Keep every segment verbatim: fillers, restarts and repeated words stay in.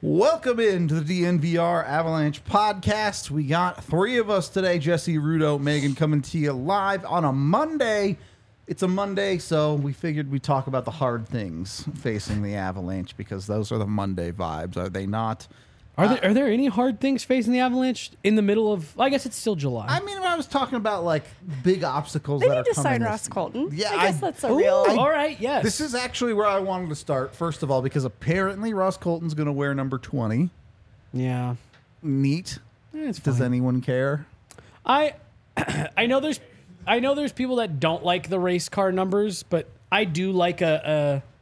Welcome into the D N V R Avalanche podcast. We got three of us today. Jesse, Rudo, Megan coming to you live on a Monday. It's a Monday, so we figured we'd talk about the hard things facing the Avalanche because those are the Monday vibes, are they not? Are uh, there are there any hard things facing the Avalanche in the middle of? I guess it's still July. I mean, I was talking about like big obstacles They that need are to coming. sign this- Ross Colton. Yeah, I guess I- that's a Ooh, real. all right, yes. This is actually where I wanted to start, first of all, because apparently Ross Colton's going to wear number twenty. yeah. Neat. Eh, it's Does fine. anyone care? I I know there's I know there's people that don't like the race car numbers, but I do like a a,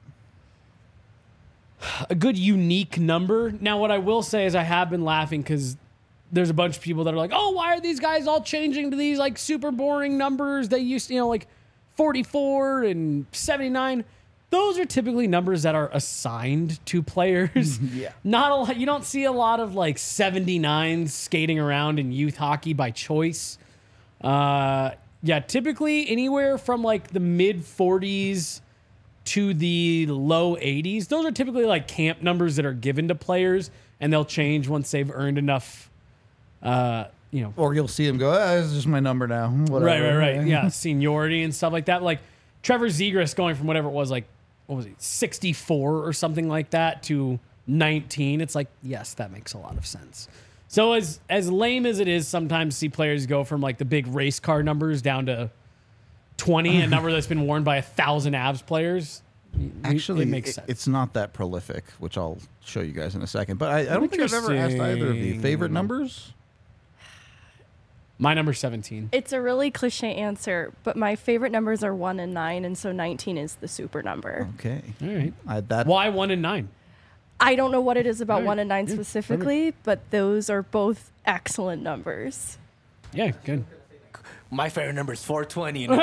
a good unique number. Now, what I will say is I have been laughing because there's a bunch of people that are like, "Oh, why are these guys all changing to these like super boring numbers? They used to, you know, like forty-four and seventy-nine." Those are typically numbers that are assigned to players. Yeah. Not a lot. You don't see a lot of like seventy-nines skating around in youth hockey by choice. Uh, yeah, typically anywhere from like the mid forties to the low eighties. Those are typically like camp numbers that are given to players, and they'll change once they've earned enough. Uh, you know, Or you'll see him go, ah, this is just my number now. Whatever. right, right, right. Yeah, seniority and stuff like that. Like Trevor Zegras going from whatever it was, like what was he, sixty-four or something like that to nineteen. It's like, yes, that makes a lot of sense. So as as lame as it is, sometimes see players go from like the big race car numbers down to twenty, a number that's been worn by a thousand Avs players. Actually, it makes it- sense. it's not that prolific, which I'll show you guys in a second. But I, I don't think I've ever asked either of you. Interesting. Favorite numbers? My number's seventeen. It's a really cliche answer, but my favorite numbers are one and nine, and so nineteen is the super number. Okay. All right. I, that, Why one and nine? I don't know what it is about Right. one and nine Yeah, specifically, but those are both excellent numbers. Yeah, good. My favorite number is four twenty. And it's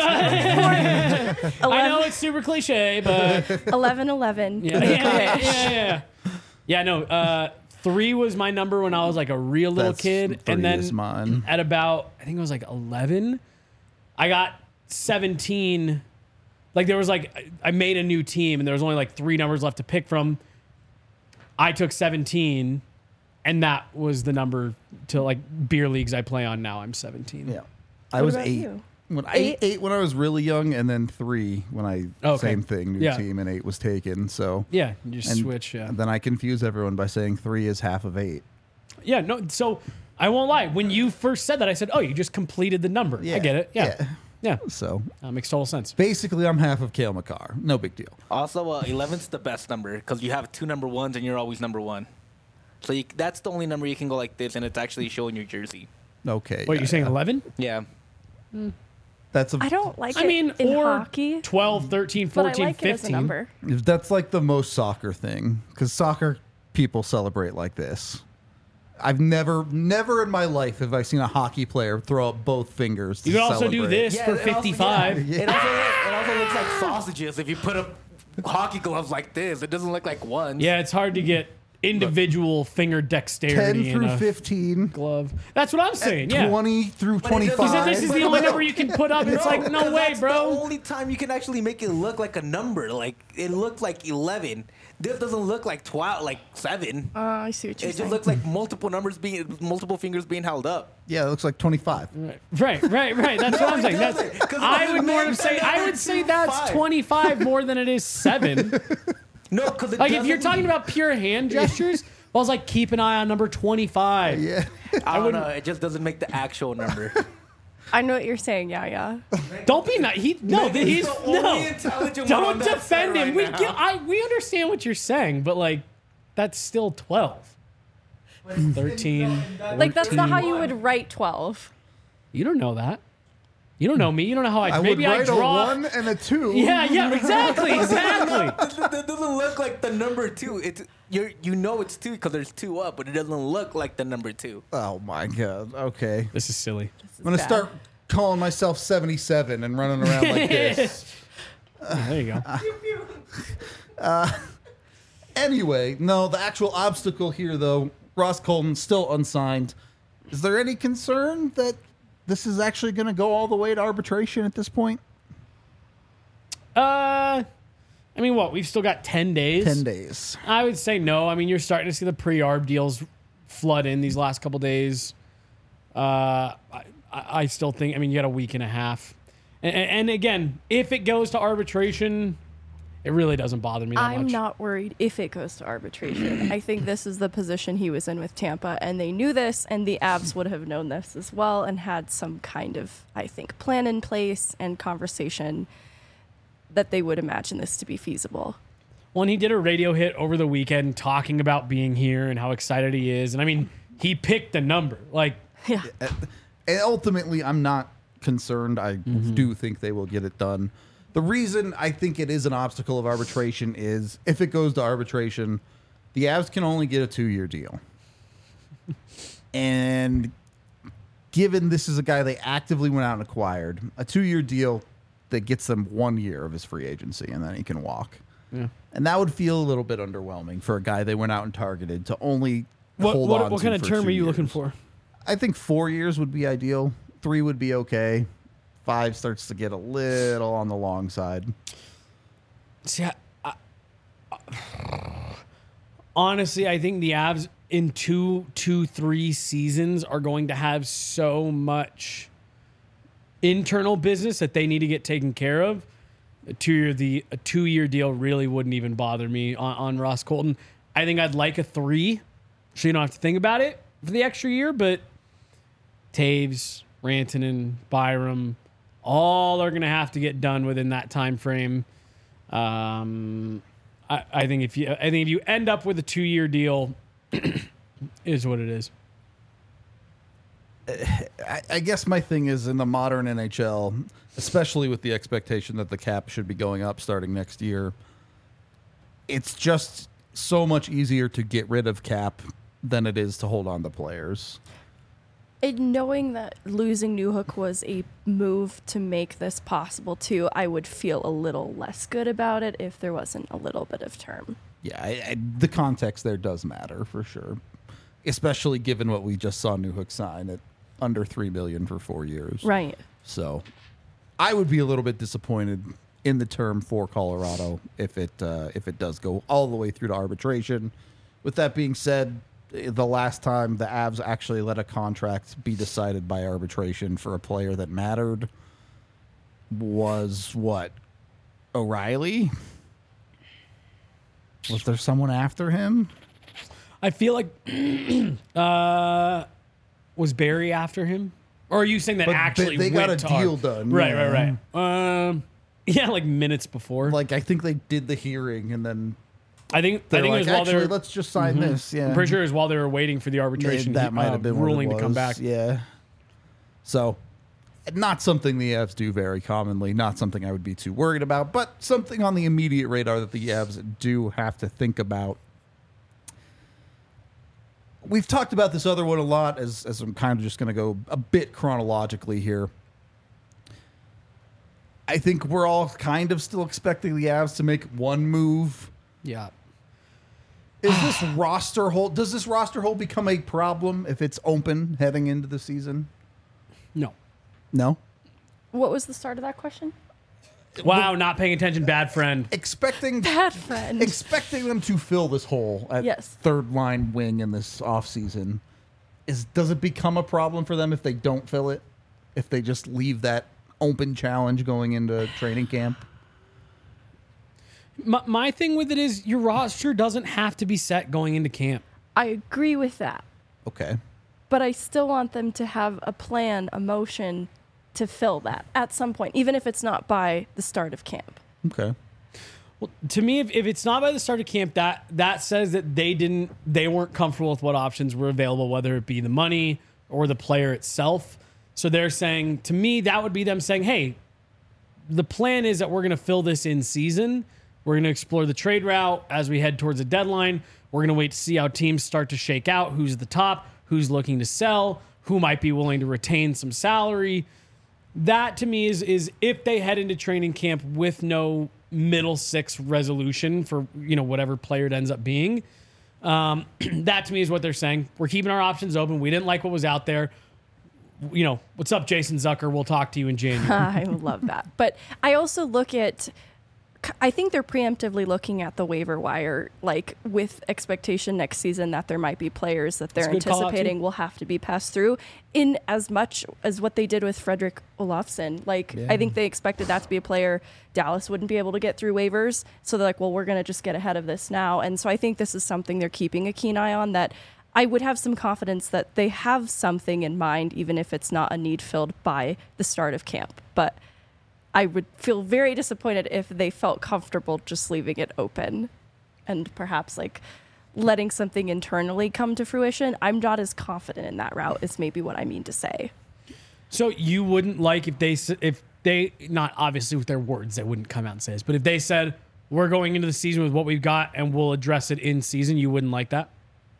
I know it's super cliche, but eleven eleven. yeah, yeah, yeah, yeah, yeah. Yeah, no. Uh, three was my number when I was like a real little That's- kid, three and then is mine. at about I think it was like eleven, I got seventeen. Like there was like I I made a new team, and there was only like three numbers left to pick from. I took seventeen, and that was the number to like beer leagues I play on now. I'm seventeen. yeah. I What was about eight. you? When I, Eight? eight when I was really young, and then three when I Okay. same thing, new Yeah. team, and eight was taken. So Yeah, you just and switch. Yeah. then I confuse everyone by saying three is half of eight. Yeah, no. So I won't lie. When you first said that, I said, "Oh, you just completed the number." I get it. Yeah, Yeah. yeah. So That makes total sense. basically, I'm half of Cale Makar. No big deal. also, uh, eleven's the best number because you have two number ones and you're always number one. So you, that's the only number you can go like this, and it's actually showing your jersey. Okay. Wait, yeah, you're saying yeah. eleven? Yeah. That's a I don't like I it mean, in or hockey, twelve, thirteen, but I fourteen, like it as a fifteen. number. That's like the most soccer thing because soccer people celebrate like this. I've never, never in my life have I seen a hockey player throw up both fingers. To You can also do celebrate. this for it also- fifty-five. yeah. It, also, it also looks like sausages if you put up hockey gloves like this. It doesn't look like ones. Yeah, it's hard to get individual finger ten dexterity in through a fifteen, glove. That's what I'm saying. Yeah. twenty through it doesn't- twenty-five. He said this is the only number you can put up. It's like, no because way, that's bro. the only time you can actually make it look like a number. Like it looked like eleven. This doesn't look like twelve, like seven. Uh, I see what you're It saying. just looks like multiple numbers being, multiple fingers being held up. Yeah, it looks like twenty-five. Right, right, right. That's what I'm it saying. That's, doesn't, 'cause it I doesn't would more make of say that I number would say that's twenty-five. twenty-five more than it is seven. No, because Like if you're talking about pure hand gestures, I was like, keep an eye on number twenty-five. Yeah. I don't know. It just doesn't make the actual number. I know what you're saying. Yeah, yeah. Don't be nice. He no, Maybe he's he's the only no. intelligent one Don't on that defend set him. right we now. get, I we understand what you're saying, but like that's still twelve. thirteen. Like that's not how fourteen. you would write twelve. You don't know that. You don't know me. You don't know how I, I maybe would I write draw. a one and a two. Yeah, yeah, exactly, exactly. It doesn't look like the number two. It's you. You know it's two because there's two up, but it doesn't look like the number two. Oh my god. Okay. This is silly. I'm gonna bad. start calling myself seventy-seven and running around like this. There you go. Anyway, no, the actual obstacle here, though, Ross Colton still unsigned. Is there any concern that this is actually going to go all the way to arbitration at this point? Uh, I mean, what? We've still got ten days? ten days. I would say no. I mean, you're starting to see the pre-arb deals flood in these last couple days. Uh, I, I still think, I mean, you got a week and a half. And, and again, if it goes to arbitration, it really doesn't bother me that I'm much. not worried if it goes to arbitration. I think this is the position he was in with Tampa, and they knew this, and the Avs would have known this as well and had some kind of, I think, plan in place and conversation that they would imagine this to be feasible. Well, and he did a radio hit over the weekend talking about being here and how excited he is. And I mean, he picked the number. Like, Yeah. And ultimately, I'm not concerned. I do think they will get it done. The reason I think it is an obstacle of arbitration is if it goes to arbitration, the Avs can only get a two-year deal. And given this is a guy they actively went out and acquired, a two-year deal that gets them one year of his free agency, and then he can walk. yeah. And that would feel a little bit underwhelming for a guy they went out and targeted to only What, hold what, on what to kind of for term two are you years. looking for? I think four years would be ideal. Three would be okay. Five starts to get a little on the long side. See, I, I, honestly, I think the Avs in two, two, three seasons are going to have so much internal business that they need to get taken care of. A two-year the a two-year deal really wouldn't even bother me on, on Ross Colton. I think I'd like a three, so you don't have to think about it for the extra year. But Taves, Rantanen, Byram, all are going to have to get done within that time frame. Um, I, I think if you, I think if you end up with a two-year deal, is what it is. I, I guess my thing is in the modern N H L, especially with the expectation that the cap should be going up starting next year, it's just so much easier to get rid of cap than it is to hold on to players. And knowing that losing Newhook was a move to make this possible too, I would feel a little less good about it if there wasn't a little bit of term. Yeah, I, I, the context there does matter for sure, especially given what we just saw Newhook sign at under three million dollars for four years. Right. So I would be a little bit disappointed in the term for Colorado if it uh, if it does go all the way through to arbitration. With that being said, the last time the Avs actually let a contract be decided by arbitration for a player that mattered was what? O'Reilly? Was there someone after him? I feel like uh, was Barry after him, or are you saying that But actually they got went a to deal ar- done, Right, yeah. right, right. Um, yeah, like minutes before. Like, I think they did the hearing and then I think I they're think like, it was while actually, they were. let's just sign this. Yeah. I'm pretty sure it was while they were waiting for the arbitration. Yeah, that might uh, have been what it ruling to come was. back. Yeah. So, not something the Avs do very commonly. Not something I would be too worried about, but something on the immediate radar that the Avs do have to think about. We've talked about this other one a lot, as as I'm kind of just going to go a bit chronologically here. I think we're all kind of still expecting the Avs to make one move. Yeah. Is this roster hold? Does this roster hold become a problem if it's open heading into the season? No. No. What was the start of that question? Wow, not paying attention, bad friend. Expecting Bad friend. expecting them to fill this hole at Yes. third line wing in this offseason, is does it become a problem for them if they don't fill it? If they just leave that open challenge going into training camp? My, my thing with it is your roster doesn't have to be set going into camp. I agree with that, Okay. but I still want them to have a plan, a motion to fill that at some point, even if it's not by the start of camp. Okay. Well, to me, if, if it's not by the start of camp, that that says that they didn't, they weren't comfortable with what options were available, whether it be the money or the player itself. So they're saying, to me, that would be them saying, hey, the plan is that we're going to fill this in season. We're going to explore the trade route as we head towards the deadline. We're going to wait to see how teams start to shake out, who's at the top, who's looking to sell, who might be willing to retain some salary. That to me is is if they head into training camp with no middle six resolution for, you know, whatever player it ends up being. Um, that to me is what they're saying. We're keeping our options open. We didn't like what was out there. You know, what's up, Jason Zucker? We'll talk to you in January. I love that. But I also look at I think they're preemptively looking at the waiver wire, like with expectation next season that there might be players that they're That's a good call out, anticipating too. will have to be passed through, in as much as what they did with Frederick Olofsson. Like, Yeah. I think they expected that to be a player Dallas wouldn't be able to get through waivers. So they're like, well, we're going to just get ahead of this now. And so I think this is something they're keeping a keen eye on, that I would have some confidence that they have something in mind, even if it's not a need filled by the start of camp. But I would feel very disappointed if they felt comfortable just leaving it open and perhaps like letting something internally come to fruition. I'm not as confident in that route, is maybe what I mean to say. So you wouldn't like if they s- if they not obviously with their words they wouldn't come out and say this, but if they said we're going into the season with what we've got and we'll address it in season, you wouldn't like that?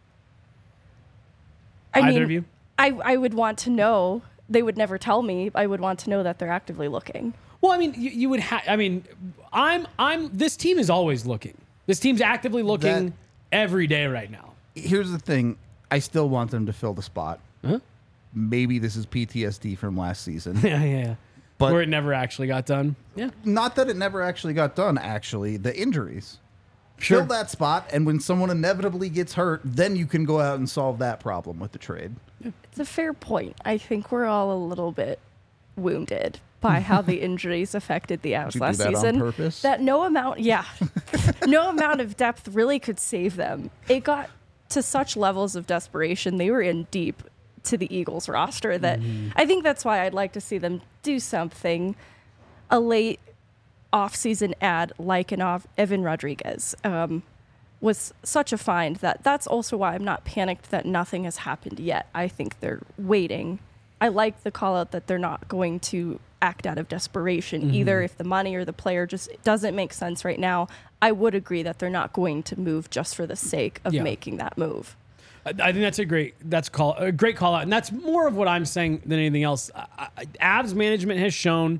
I Either mean, of you? I, I would want to know. They would never tell me. I would want to know that they're actively looking. Well, I mean, you, you would have. I mean, I'm. I'm. This team is always looking. This team's actively looking That- every day right now. Here's the thing. I still want them to fill the spot. Huh? Maybe this is P T S D from last season. Yeah, yeah, yeah. But- Where it never actually got done. Yeah, Not that it never actually got done, actually. The injuries. sure. Fill that spot, and when someone inevitably gets hurt, then you can go out and solve that problem with the trade. It's a fair point. I think we're all a little bit wounded by how the injuries affected the Avs Did you do last that on season. purpose? That no amount, yeah, no amount of depth really could save them. It got to such levels of desperation. They were in deep to the Eagles roster that I think that's why I'd like to see them do something, a late off-season ad like an off Evan Rodriguez. Um, was such a find that that's also why I'm not panicked that nothing has happened yet. I think they're waiting. I like the call out that they're not going to act out of desperation Mm-hmm. either. If the money or the player just doesn't make sense right now, I would agree that they're not going to move just for the sake of Yeah. making that move. I I think that's a great that's call a great call out, and that's more of what I'm saying than anything else. I, I, Avs management has shown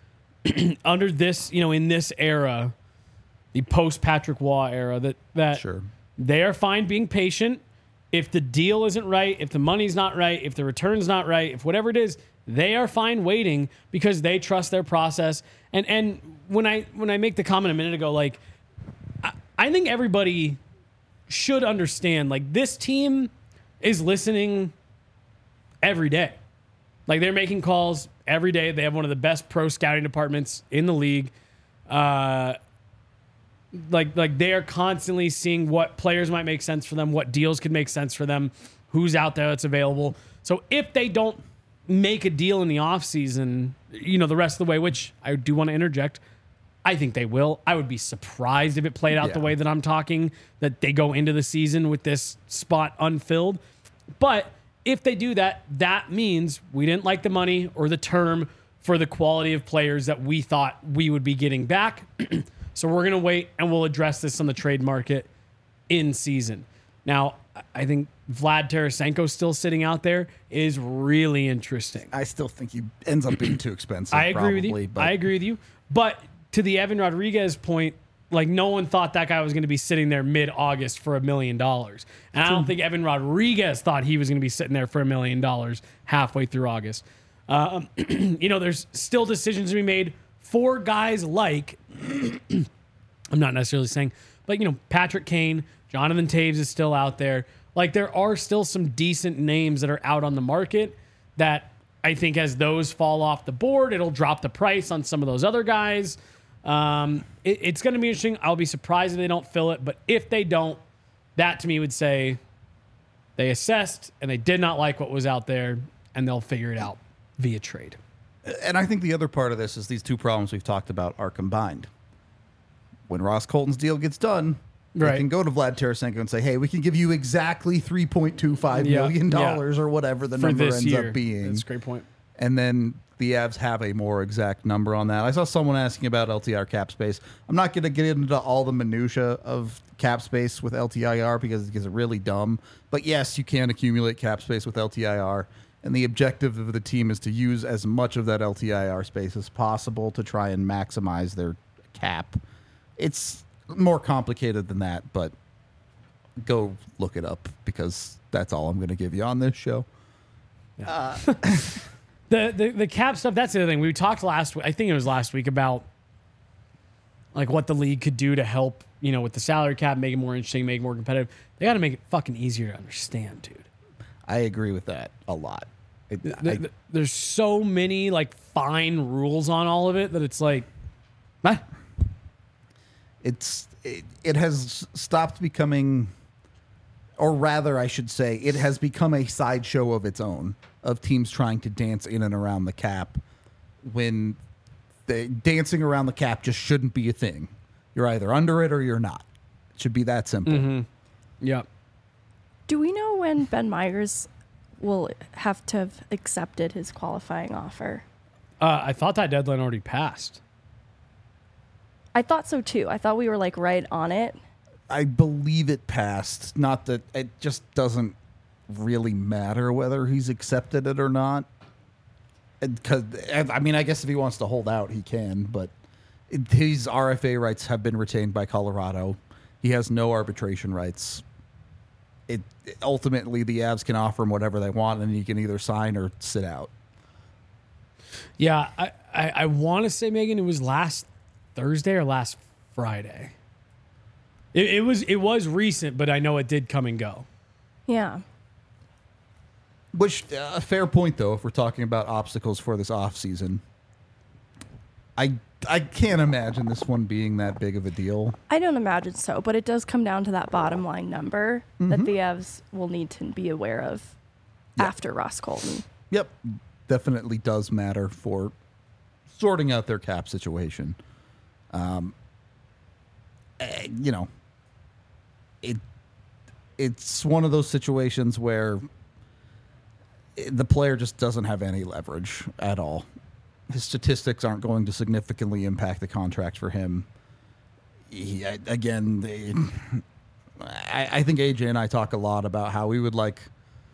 under this, you know, in this era, the post Patrick Waugh era, that that Sure. they are fine being patient. If the deal isn't right, if the money's not right, if the return's not right, if whatever it is, they are fine waiting because they trust their process. And and when I when I make the comment a minute ago, like I, I think everybody should understand, like, this team is listening every day. Like, they're making calls every day. They have one of the best pro scouting departments in the league. Uh, like, like they are constantly seeing what players might make sense for them, what deals could make sense for them, who's out there that's available. So if they don't make a deal in the offseason, you know, the rest of the way, which I do want to interject, I think they will. I would be surprised if it played out the Yeah. way that I'm talking, that they go into the season with this spot unfilled. But if they do that, that means we didn't like the money or the term for the quality of players that we thought we would be getting back. So we're going to wait and we'll address this on the trade market in season. Now, I think Vlad Tarasenko still sitting out there is really interesting. I still think he ends up being too expensive. I agree probably, with you. But I agree with you. But to the Evan Rodriguez point, like, no one thought that guy was going to be sitting there mid-August for a million dollars. And I don't think Evan Rodriguez thought he was going to be sitting there for a million dollars halfway through August. Um, you know, there's still decisions to be made for guys like, I'm not necessarily saying, but, you know, Patrick Kane, Jonathan Taves is still out there. Like, there are still some decent names that are out on the market that I think as those fall off the board, it'll drop the price on some of those other guys. Um, it, it's going to be interesting. I'll be surprised if they don't fill it. But if they don't, that to me would say they assessed and they did not like what was out there, and they'll figure it out via trade. And I think the other part of this is these two problems we've talked about are combined. When Ross Colton's deal gets done, Right. they can go to Vlad Tarasenko and say, hey, we can give you exactly three point two five Yeah, million dollars yeah. or whatever the For number this ends year. up being. That's a great point. And then the Avs have a more exact number on that. I saw someone asking about L T I R cap space. I'm not going to get into all the minutia of cap space with L T I R because it gets really dumb. But yes, you can accumulate cap space with L T I R. And the objective of the team is to use as much of that L T I R space as possible to try and maximize their cap. It's more complicated than that, but go look it up because that's all I'm going to give you on this show. The, the the cap stuff, that's the other thing. We talked last week, I think it was last week, about like what the league could do to help, you know, with the salary cap, make it more interesting, make it more competitive. They got to make it fucking easier to understand, dude. I agree with that a lot. It, Th- I- th- There's so many like fine rules on all of it that it's like, ah, it's it, it has stopped becoming, or rather I should say it has become a sideshow of its own, of teams trying to dance in and around the cap when the dancing around the cap just shouldn't be a thing. You're either under it or you're not. It should be that simple. yeah. Do we know when Ben Myers will have to have accepted his qualifying offer? Uh, I thought that deadline already passed. I thought so too. I thought we were like right on it. I believe it passed. Not that it just doesn't really matter whether he's accepted it or not. Because I mean, I guess if he wants to hold out, he can. But it, his R F A rights have been retained by Colorado. He has no arbitration rights. It ultimately the Avs can offer him whatever they want, and he can either sign or sit out. Yeah, I, I, I want to say, Megan, it was last Thursday or last Friday. It, it was it was recent, but I know it did come and go. Yeah. Which uh, a fair point though, if we're talking about obstacles for this off season. I I can't imagine this one being that big of a deal. I don't imagine so, but it does come down to that bottom line number that the Avs will need to be aware of after Ross Colton. Yep, definitely does matter for sorting out their cap situation. Um, eh, you know, it it's one of those situations where the player just doesn't have any leverage at all. His statistics aren't going to significantly impact the contract for him. He, I- again, they, I, I think A J and I talk a lot about how we would like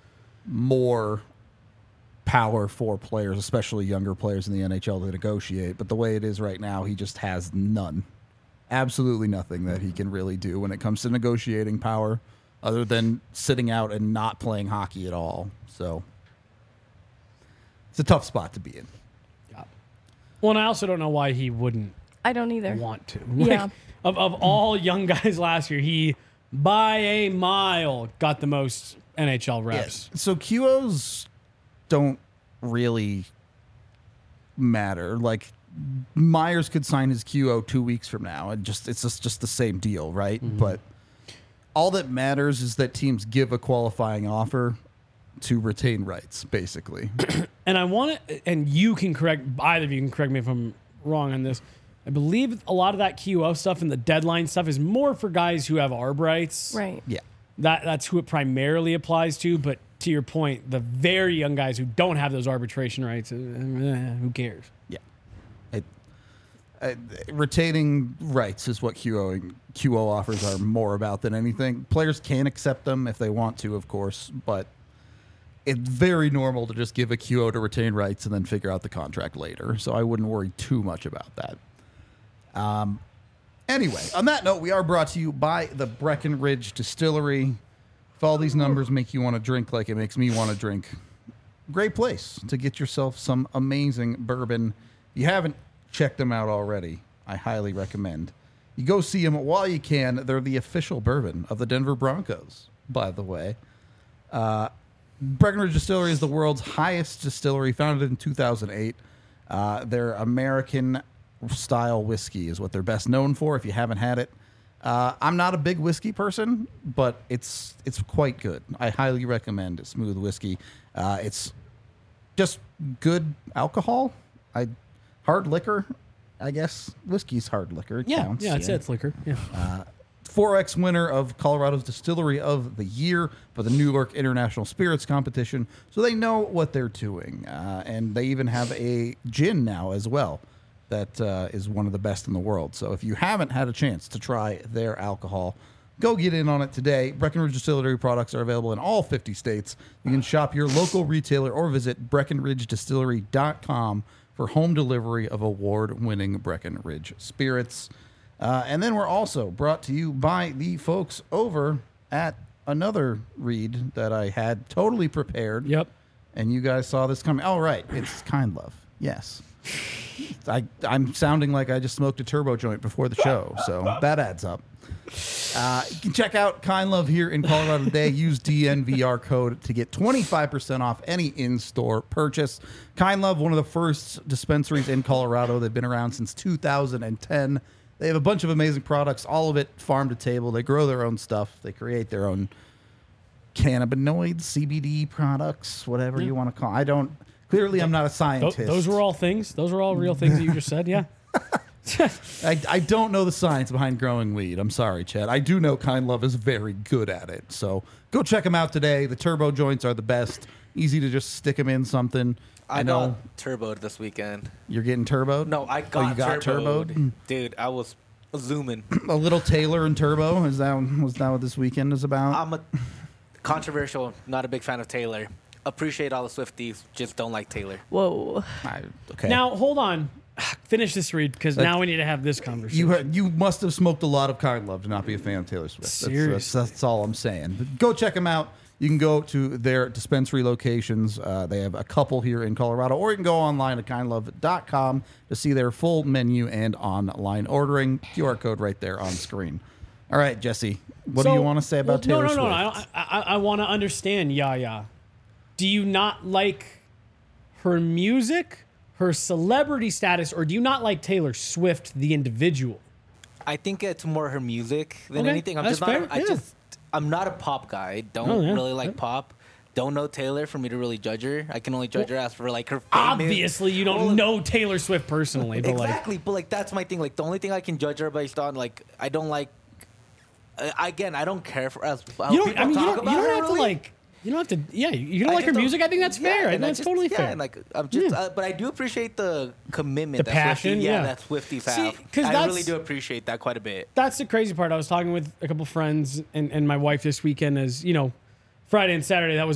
more power for players, especially younger players in the N H L, to negotiate. But the way it is right now, he just has none. Absolutely nothing that he can really do when it comes to negotiating power other than sitting out and not playing hockey at all. So it's a tough spot to be in. Well, and I also don't know why he wouldn't I don't either. want to. Yeah. Like, of, of all young guys last year, he, by a mile, got the most N H L reps. So Q Os don't really matter. Like Myers could sign his Q O two weeks from now, and just it's just, just the same deal, right? But all that matters is that teams give a qualifying offer to retain rights, basically. And I want to, and you can correct, either of you can correct me if I'm wrong on this. I believe a lot of that Q O stuff and the deadline stuff is more for guys who have arb rights. Right. Yeah. That That's who it primarily applies to. But to your point, the very young guys who don't have those arbitration rights, uh, eh, who cares? Yeah. It, uh, retaining rights is what Q O Q O offers are more about than anything. Players can accept them if they want to, of course, but it's very normal to just give a Q O to retain rights and then figure out the contract later. So I wouldn't worry too much about that. Um, anyway, on that note, we are brought to you by the Breckenridge Distillery. If all these numbers make you want to drink like it makes me want to drink, great place to get yourself some amazing bourbon. If you haven't checked them out already, I highly recommend. You go see them while you can. They're the official bourbon of the Denver Broncos, by the way. Uh, Breckenridge Distillery is the world's highest distillery, founded in two thousand eight. Uh, their American-style whiskey is what they're best known for. If you haven't had it, uh, I'm not a big whiskey person, but it's it's quite good. I highly recommend it. Smooth whiskey. Uh, it's just good alcohol. I hard liquor, I guess. Whiskey's hard liquor. It Yeah, counts, yeah, it's, it's liquor. Yeah. four X winner of Colorado's Distillery of the Year for the New York International Spirits Competition. So they know what they're doing. Uh, and they even have a gin now as well that uh, is one of the best in the world. So if you haven't had a chance to try their alcohol, go get in on it today. Breckenridge Distillery products are available in all fifty states. You can shop your local retailer or visit breckenridge distillery dot com for home delivery of award-winning Breckenridge spirits. Uh, and then we're also brought to you by the folks over at another read that I had totally prepared. Yep. And you guys saw this coming. Oh, right. It's Kind Love. Yes. I, I'm sounding like I just smoked a turbo joint before the show, so that adds up. Uh, you can check out Kind Love here in Colorado today. Use D N V R code to get twenty-five percent off any in-store purchase. Kind Love, one of the first dispensaries in Colorado. They've been around since two thousand ten. They have a bunch of amazing products, all of it farm to table. They grow their own stuff. They create their own cannabinoids, C B D products, whatever Yeah. you want to call it. I don't... Clearly, I'm not a Th- scientist. those were all things. Those were all real things that you just said. Yeah. I, I don't know the science behind growing weed. I'm sorry, Chad. I do know Kind Love is very good at it. So go check them out today. The turbo joints are the best. Easy to just stick them in something. I, I know got turboed this weekend. you're getting turboed. No, I Oh, got, you got turboed. turboed? Dude, I was zooming. A little Taylor and turbo. Is that was that what this weekend is about? I'm a controversial, not a big fan of Taylor. Appreciate all the Swifties, just don't like Taylor. Whoa. I, okay. Now hold on. Finish this read because That- now we need to have this conversation. you heard, you must have smoked a lot of Kind Love to not be a fan of Taylor Swift. That's, that's, Seriously. that's all I'm saying. But go check them out. You can go to their dispensary locations. Uh, they have a couple here in Colorado, or you can go online at kind love dot com to see their full menu and online ordering. Q R code right there on screen. All right, Jesse, what do So- you want to say about well, Taylor no, no, Swift? No, no, I, I, I want to understand Yaya. Do you not like her music, her celebrity status, or do you not like Taylor Swift, the individual? I think it's more her music than Okay, anything. I'm that's just not. fair, I yeah. just. I'm not a pop guy. I don't Oh, yeah, really like yeah. pop. Don't know Taylor for me to really judge her. I can only judge her as for like her. Famous. Obviously, you don't Well, know Taylor Swift personally, but like, exactly, but like that's my thing. Like the only thing I can judge her based on, like I don't like. Uh, again, I don't care for as how you don't. people I mean, you talk don't, about you don't her, have to really. like. You don't have to. Yeah, you don't I like her just music. I think that's yeah, fair. I think and I that's just- totally yeah, fair. And like I'm just, Yeah. uh, but I do appreciate the commitment, The that Swifties- passion, yeah, yeah. that Swifties See, have. 'cause I that's- really do appreciate that quite a bit. That's the crazy part. I was talking with a couple friends and, and my wife this weekend. As you know, Friday and Saturday, that was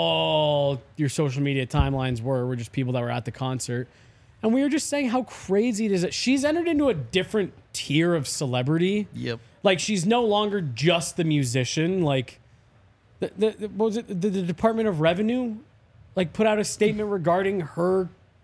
all your social media timelines were. Were just people that were at the concert, and we were just saying how crazy it is that she's entered into a different tier of celebrity. Yep. Like she's no longer just the musician. Like the, the, the what was it the, the Department of Revenue like put out a statement regarding her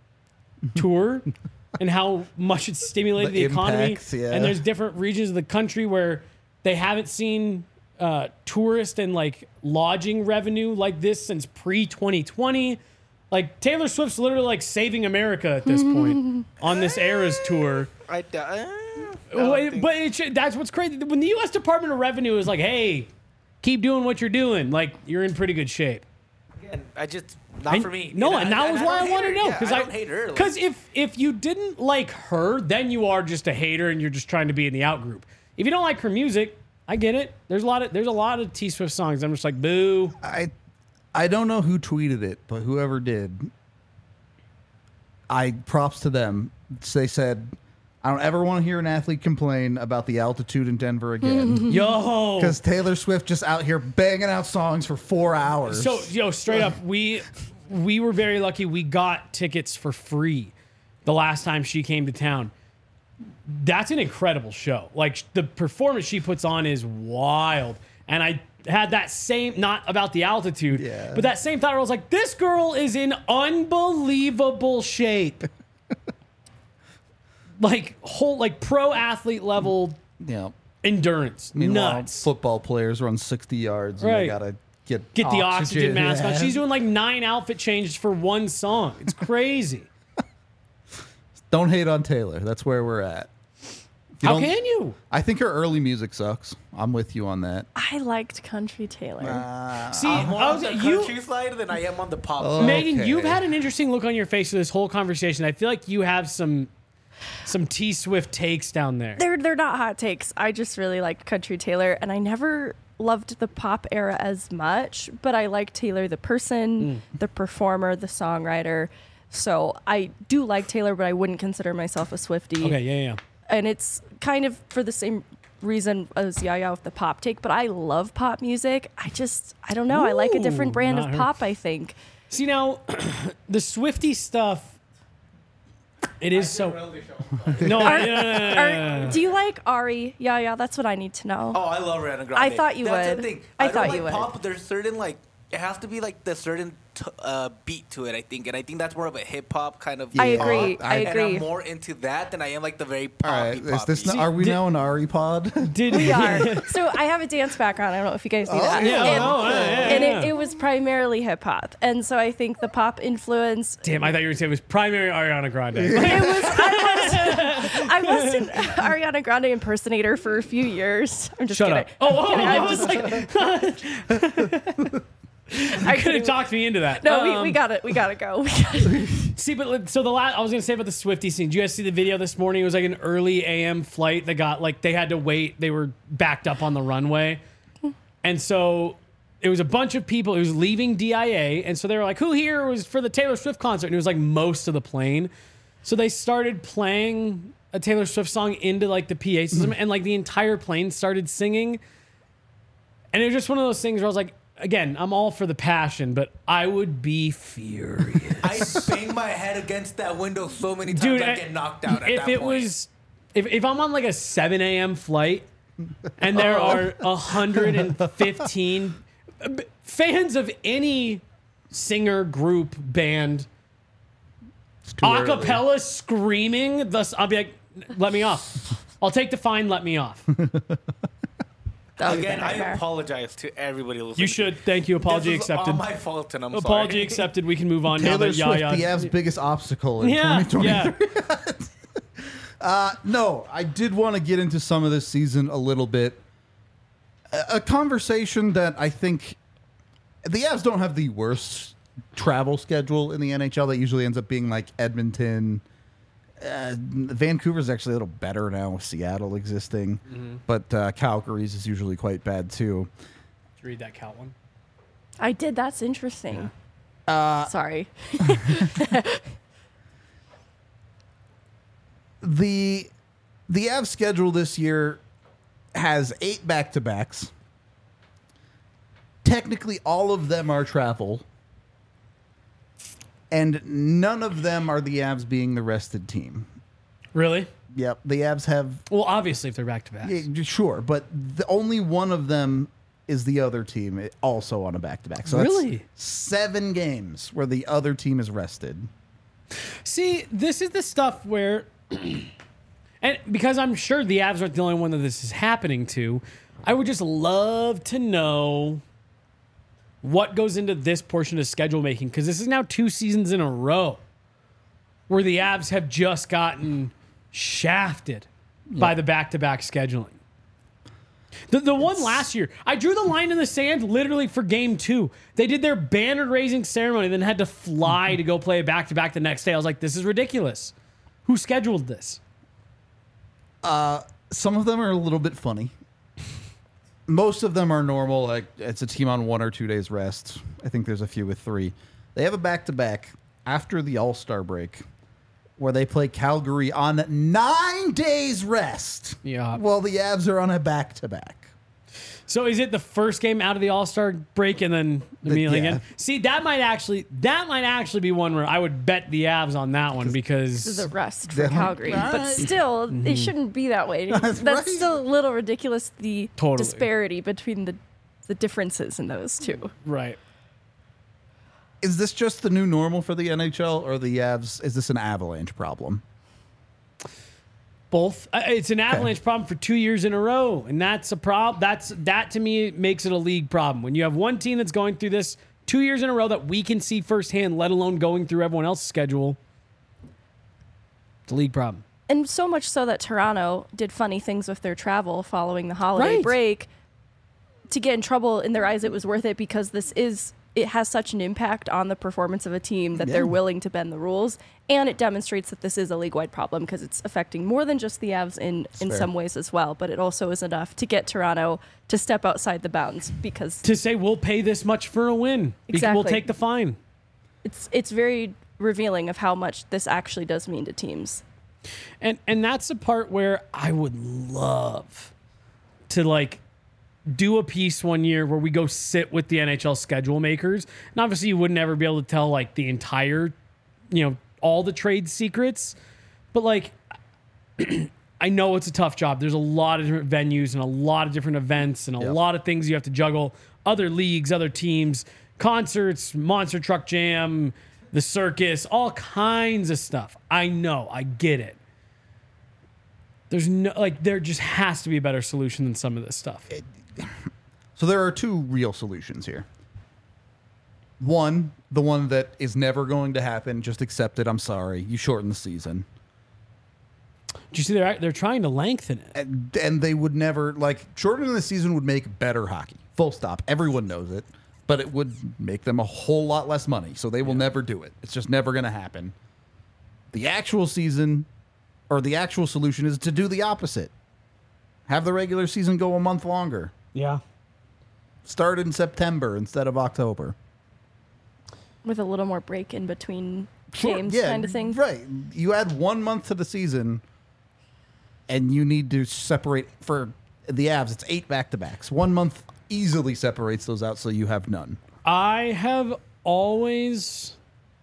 tour and how much it's stimulated The the, economy. impacts, yeah. And there's different regions of the country where they haven't seen uh, tourist and like lodging revenue like this since pre twenty twenty. Like Taylor Swift's literally like saving America at this point on this Eras tour. I, uh, I Well, don't it- think- but it, should- that's what's crazy. When the U S Department of Revenue is like, "Hey, keep doing what you're doing," like you're in pretty good shape. again, I just not And- for me. No, You know, and that was why I don't wanted hate to her. know Yeah, because I don't hate her. Like, Because if if you didn't like her, then you are just a hater and you're just trying to be in the out group. If you don't like her music, I get it. There's a lot of there's a lot of T Swift songs. I'm just like, boo. I I don't know who tweeted it, but whoever did, I props to them. They said, I don't ever want to hear an athlete complain about the altitude in Denver again. Yo, Because Taylor Swift just out here banging out songs for four hours. So, yo, straight up, we we were very lucky. We got tickets for free the last time she came to town. That's an incredible show. Like the performance she puts on is wild. And I had that same, not about the altitude, Yeah. but that same thought. Where I was like, this girl is in unbelievable shape. Like whole, like pro athlete level yeah. endurance. Meanwhile, Nuts. football players run sixty yards and Right. they gotta get Get the oxygen mask on. Yeah. She's doing like nine outfit changes for one song. It's crazy. Don't hate on Taylor. That's where we're at. You How don't- can you? I think her early music sucks. I'm with you on that. I liked country Taylor. See, I'm more I on was, the you, country side than I am on the pop. Oh. side. Megan, Okay. you've had an interesting look on your face for this whole conversation. I feel like you have some some T Swift takes down there. They're they're not hot takes. I just really liked country Taylor, and I never loved the pop era as much, but I like Taylor the person, the performer, the songwriter. So I do like Taylor, but I wouldn't consider myself a Swiftie. Okay, yeah, yeah. And it's kind of for the same reason as Yaya with the pop take, but I love pop music. I just, I don't know. I like a different Ooh, brand not of her. pop, I think. See now, the Swifty stuff. It is so. No, Are- I- no, no, no, no, no, no. Are, do you like Ari? Yaya, that's what I need to know. Oh, I love Ariana Grande. I thought you That's would. The thing. I I, don't thought like you would. pop, but there's certain like it has to be like the certain t- uh, beat to it, I think, and I think that's more of a hip hop kind of. I Yeah. agree. I- I And agree. I'm more into that than I am like the very All right, poppy. is this poppy. not, are we did- now an Ari pod? Did We are. So I have a dance background. I don't know if you guys knew that. yeah, and oh, yeah, yeah, and yeah. It, it was primarily hip hop, and so I think the pop influence. Damn, I thought you were saying it was primary Ariana Grande. It was. I was. I was an Ariana Grande impersonator for a few years. I'm just Shut kidding. up. Oh, oh, Kidding. I I'm was just like, I could have talked me into that. No, we, Um, we got it. We gotta go. We gotta, See, but like, so the last I was gonna say about the Swiftie scene. Did you guys see the video this morning? It was like an early A M flight that got like they had to wait. They were backed up on the runway, and so it was a bunch of people. It was leaving D I A, and so they were like, "Who here was for the Taylor Swift concert?" And it was like most of the plane. So they started playing a Taylor Swift song into like the P A system, and like the entire plane started singing. And it was just one of those things where I was like, again, I'm all for the passion, but I would be furious. I bang my head against that window so many times Dude, I I- get knocked out. At if that it point. was, if, if I'm on like a seven a.m. flight and there are one hundred fifteen b- fans of any singer, group, band, It's too early. acapella screaming, thus I'll be like, let me off. I'll take the fine, let me off. that would Again, be a I nightmare. apologize to everybody listening. You should. Thank you. Apology This was accepted. all my fault, and I'm Apology sorry. accepted. We can move on now Taylor that Swift, Yaya. the Avs' biggest obstacle in yeah, twenty twenty-three. yeah. No, I did want to get into some of this season a little bit. A, a conversation that I think the Avs don't have the worst travel schedule in the N H L. That usually ends up being like Edmonton. Uh, Vancouver's actually a little better now with Seattle existing, but uh, Calgary's is usually quite bad too. Did you read that Cal one? I did. That's interesting. Uh, Sorry. the the Avs schedule this year has eight back to backs. Technically, all of them are travel, and none of them are the Avs being the rested team. Really? Yep, the Avs have Well, obviously, if they're back to back. yeah, sure, but the only one of them is the other team eh, also on a back to back. So that's Really? seven games where the other team is rested. See, this is the stuff where, and because I'm sure the Avs aren't the only one that this is happening to, I would just love to know what goes into this portion of schedule making, because this is now two seasons in a row where the Avs have just gotten shafted by the back-to-back scheduling. The, the one last year, I drew the line in the sand literally for game two. They did their banner raising ceremony, then had to fly to go play a back to back the next day. I was like, this is ridiculous. Who scheduled this? Some of them are a little bit funny. Most of them are normal. Like it's a team on one or two days rest. I think there's a few with three. They have a back to back after the All Star break, where they play Calgary on nine days rest. Yeah. While the Avs are on a back to back. So is it the first game out of the All Star break and then immediately yeah. again? See, that might actually that might actually be one where I would bet the Avs on that one This because is a rest for Yeah. Calgary, but Right. still, Mm-hmm. it shouldn't be that way. That's, right. still a little ridiculous. The Totally. disparity between the the differences in those two. right. Is this just the new normal for the N H L, or the Avs? Is this an Avalanche problem? Both. Uh, It's an Avalanche problem for two years in a row, and that's a problem. That's that to me makes it a league problem. When you have one team that's going through this two years in a row that we can see firsthand, let alone going through everyone else's schedule, it's a league problem. And so much so that Toronto did funny things with their travel following the holiday Right. break. To get in trouble in their eyes, it was worth it because this is it has such an impact on the performance of a team that Yeah. they're willing to bend the rules, and it demonstrates that this is a league-wide problem because it's affecting more than just the Avs in in fair. some ways as well. But it also is enough to get Toronto to step outside the bounds because To say we'll pay this much for a win, because we'll Exactly. take the fine. it's it's very revealing of how much this actually does mean to teams. And and that's the part where I would love to like do a piece one year where we go sit with the N H L schedule makers. And obviously you wouldn't ever be able to tell like the entire, you know, all the trade secrets. But like I know it's a tough job. There's a lot of different venues and a lot of different events and a Yep. lot of things you have to juggle. Other leagues, other teams, concerts, Monster Truck Jam, the circus, all kinds of stuff. I know, I get it. There's no, like, there just has to be a better solution than some of this stuff. So there are two real solutions here. One, the one that is never going to happen. Just accept it. I'm sorry. You shorten the season. Do you see they're they're trying to lengthen it? And, and they would never, like, shortening the season would make better hockey. Full stop. Everyone knows it. But it would make them a whole lot less money. So they will yeah. never do it. It's just never going to happen. The actual season, or the actual solution, is to do the opposite. Have the regular season go a month longer. Yeah. Start in September instead of October. With a little more break in between Sure, games, yeah, kind of thing. Right. You add one month to the season, and you need to separate for the Avs. It's eight back-to-backs. One month easily separates those out, so you have none. I have always...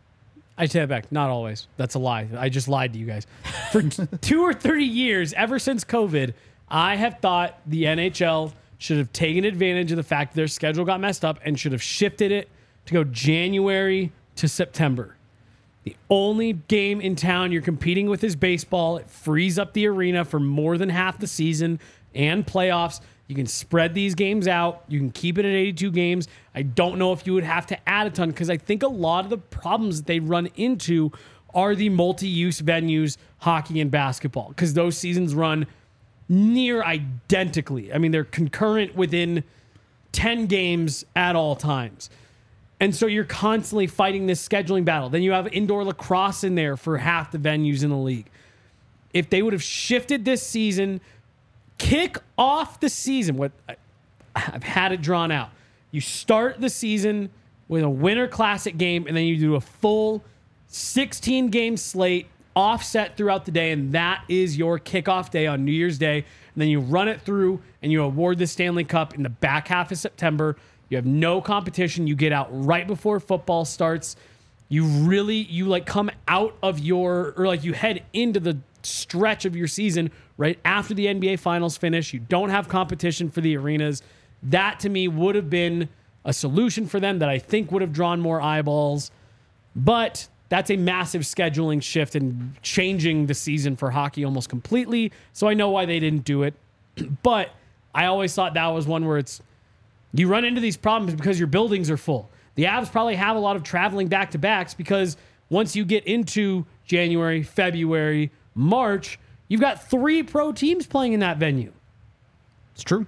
I take it back. Not always. That's a lie. I just lied to you guys. For two or thirty years, ever since COVID, I have thought the N H L should have taken advantage of the fact their schedule got messed up and should have shifted it to go January to September. The only game in town you're competing with is baseball. It frees up the arena for more than half the season and playoffs. You can spread these games out. You can keep it at eighty-two games. I don't know if you would have to add a ton because I think a lot of the problems that they run into are the multi-use venues, hockey and basketball, because those seasons run near identically. I mean, they're concurrent within ten games at all times. And so you're constantly fighting this scheduling battle. Then you have indoor lacrosse in there for half the venues in the league. If they would have shifted this season, kick off the season, what I've had it drawn out. You start the season with a Winter Classic game, and then you do a full sixteen game slate offset throughout the day, and that is your kickoff day on New Year's Day. And then you run it through, and you award the Stanley Cup in the back half of September. You have no competition. You get out right before football starts. You really, you like come out of your, or like you head into the stretch of your season right after the N B A Finals finish. You don't have competition for the arenas. That to me would have been a solution for them that I think would have drawn more eyeballs. But that's a massive scheduling shift and changing the season for hockey almost completely. So I know why they didn't do it. But I always thought that was one where it's, you run into these problems because your buildings are full. The Avs probably have a lot of traveling back-to-backs because once you get into January, February, March, you've got three pro teams playing in that venue. It's true.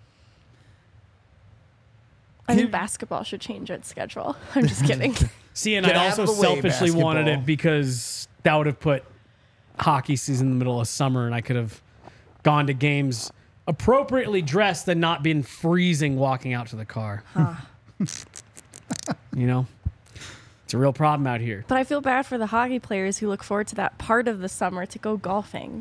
I think basketball should change its schedule. I'm just kidding. See, and Get I out also of the way, selfishly wanted basketball. it because that would have put hockey season in the middle of summer and I could have gone to games appropriately dressed and not been freezing walking out to the car. Huh. You know? It's a real problem out here. But I feel bad for the hockey players who look forward to that part of the summer to go golfing.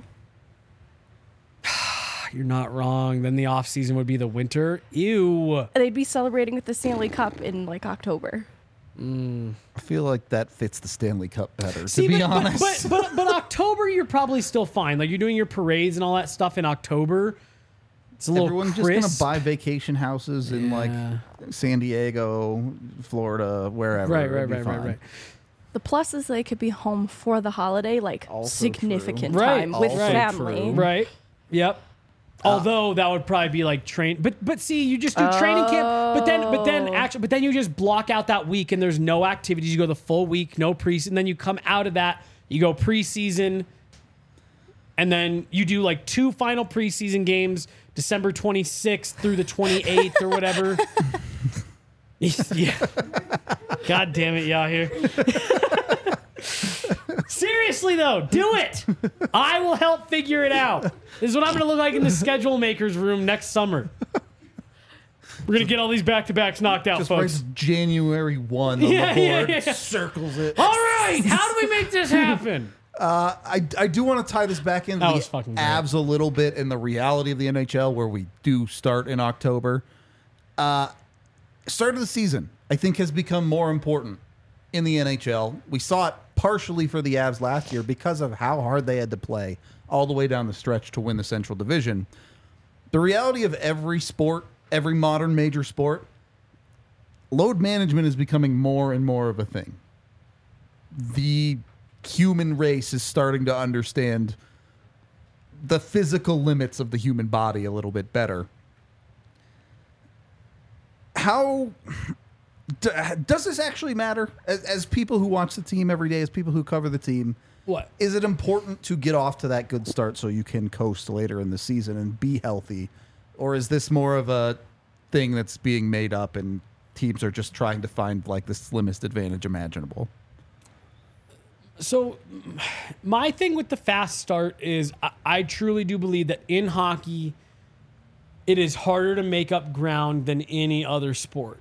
You're not wrong. Then the off season would be the winter. Ew. They'd be celebrating with the Stanley Cup in like October. Mm. I feel like that fits the Stanley Cup better, See, to be but, honest. But, but, but, but October, you're probably still fine. Like you're doing your parades and all that stuff in October. It's a little Everyone's crisp. just going to buy vacation houses in Yeah. like San Diego, Florida, wherever. Right, It'd right, be right, right, fine. right. The plus is they could be home for the holiday, like Also significant true. Right. time with Also family. true. Right. Yep. Although that would probably be like train, but but see, you just do training camp, but then but then Oh. actually, but then you just block out that week and there's no activities. You go the full week, no preseason. Then you come out of that, you go preseason, and then you do like two final preseason games, December twenty-sixth through the twenty-eighth or whatever. Yeah. God damn it, y'all here. Seriously though, do it. I will help figure it out. This is what I'm going to look like in the schedule makers room next summer. We're going to get all these back-to-backs knocked out, Just folks. writes January first on Yeah, the yeah, board, yeah, yeah. circles it. All right, how do we make this happen? Uh, I, I do want to tie this back into That the was fucking great. Avs a little bit and the reality of the N H L where we do start in October. Uh, start of the season, I think, has become more important in the N H L. We saw it partially for the Avs last year because of how hard they had to play all the way down the stretch to win the Central Division. The reality of every sport, every modern major sport, load management is becoming more and more of a thing. The human race is starting to understand the physical limits of the human body a little bit better. How d- does this actually matter? As, as people who watch the team every day, as people who cover the team, What? is it important to get off to that good start so you can coast later in the season and be healthy? Or is this more of a thing that's being made up and teams are just trying to find like the slimmest advantage imaginable? So, my thing with the fast start is I, I truly do believe that in hockey, it is harder to make up ground than any other sport.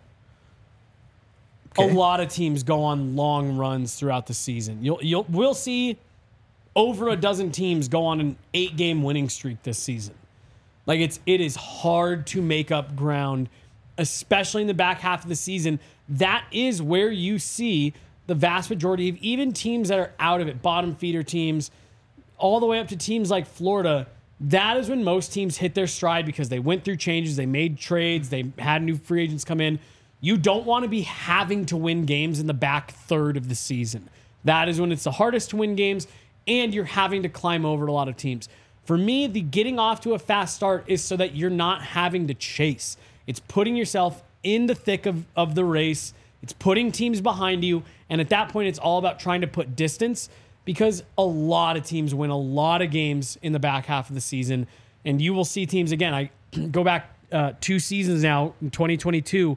Okay. A lot of teams go on long runs throughout the season. You'll, you'll, we'll see over a dozen teams go on an eight-game winning streak this season. Like it's it is hard to make up ground, especially in the back half of the season. That is where you see the vast majority of even teams that are out of it, bottom feeder teams, all the way up to teams like Florida. That is when most teams hit their stride because they went through changes, they made trades, they had new free agents come in. You don't want to be having to win games in the back third of the season. That is when it's the hardest to win games, and you're having to climb over a lot of teams. For me, the getting off to a fast start is so that you're not having to chase. It's putting yourself in the thick of, of the race. It's putting teams behind you. And at that point, it's all about trying to put distance because a lot of teams win a lot of games in the back half of the season. And you will see teams, again, I go back uh, two seasons now in twenty twenty-two.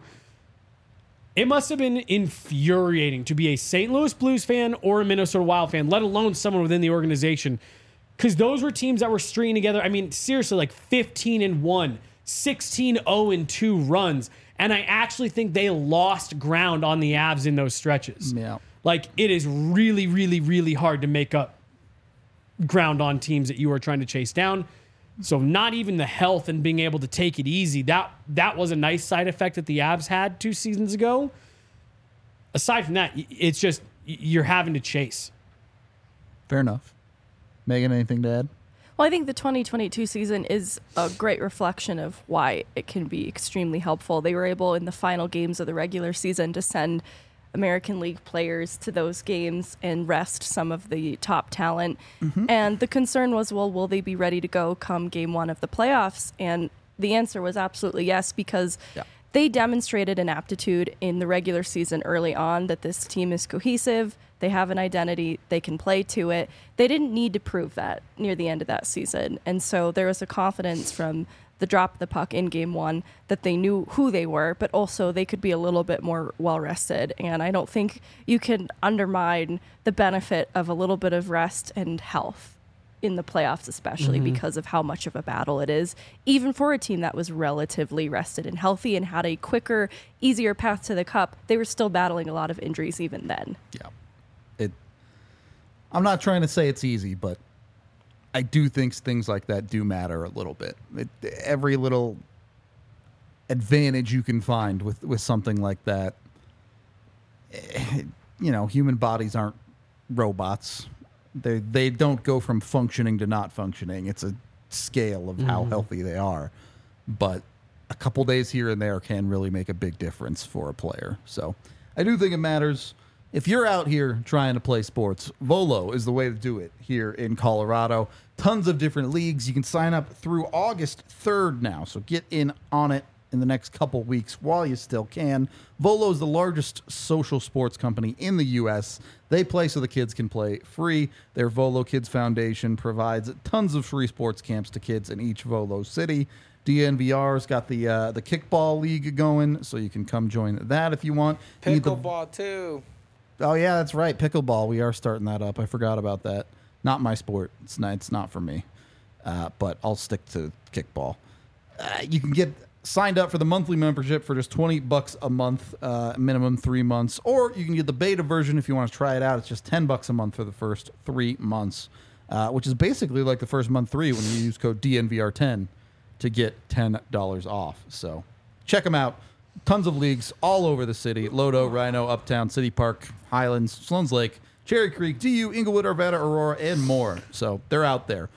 It must have been infuriating to be a Saint Louis Blues fan or a Minnesota Wild fan, let alone someone within the organization. Because those were teams that were stringing together, I mean, seriously, like fifteen and one, sixteen oh and two runs. And I actually think they lost ground on the Avs in those stretches. Yeah. Like, it is really, really, really hard to make up ground on teams that you are trying to chase down. So not even the health and being able to take it easy, that that was a nice side effect that the Avs had two seasons ago. Aside from that, it's just you're having to chase. Fair enough. Megan, anything to add? Well, I think the twenty twenty-two season is a great reflection of why it can be extremely helpful. They were able in the final games of the regular season to send American League players to those games and rest some of the top talent. Mm-hmm. And the concern was, well, will they be ready to go come game one of the playoffs? And the answer was absolutely yes, because yeah. they demonstrated an aptitude in the regular season early on that this team is cohesive. They have an identity. They can play to it. They didn't need to prove that near the end of that season. And so there was a confidence from the drop of the puck in game one that they knew who they were, but also they could be a little bit more well-rested. And I don't think you can undermine the benefit of a little bit of rest and health in the playoffs, especially mm-hmm. because of how much of a battle it is, even for a team that was relatively rested and healthy and had a quicker, easier path to the cup. They were still battling a lot of injuries even then. Yeah. It. I'm not trying to say it's easy, but I do think things like that do matter a little bit. It, every little advantage you can find with, with something like that, it, you know, human bodies aren't robots. They they don't go from functioning to not functioning. It's a scale of how mm. healthy they are. But a couple days here and there can really make a big difference for a player. So I do think it matters. If you're out here trying to play sports, Volo is the way to do it here in Colorado. Tons of different leagues. You can sign up through August third now, so get in on it in the next couple weeks while you still can. Volo is the largest social sports company in the U S. They play so the kids can play free. Their Volo Kids Foundation provides tons of free sports camps to kids in each Volo city. D N V R's got the uh, the kickball league going, so you can come join that if you want. Pickleball, too. Oh, yeah, that's right. Pickleball. We are starting that up. I forgot about that. Not my sport. It's not, it's not for me. Uh, but I'll stick to kickball. Uh, you can get signed up for the monthly membership for just twenty bucks a month, uh, minimum three months. Or you can get the beta version if you want to try it out. It's just ten bucks a month for the first three months, uh, which is basically like the first month free when you use code D N V R ten to get ten dollars off. So check them out. Tons of leagues all over the city. Lodo, Rhino, Uptown, City Park, Highlands, Sloan's Lake, Cherry Creek, D U, Inglewood, Arvada, Aurora, and more. So they're out there.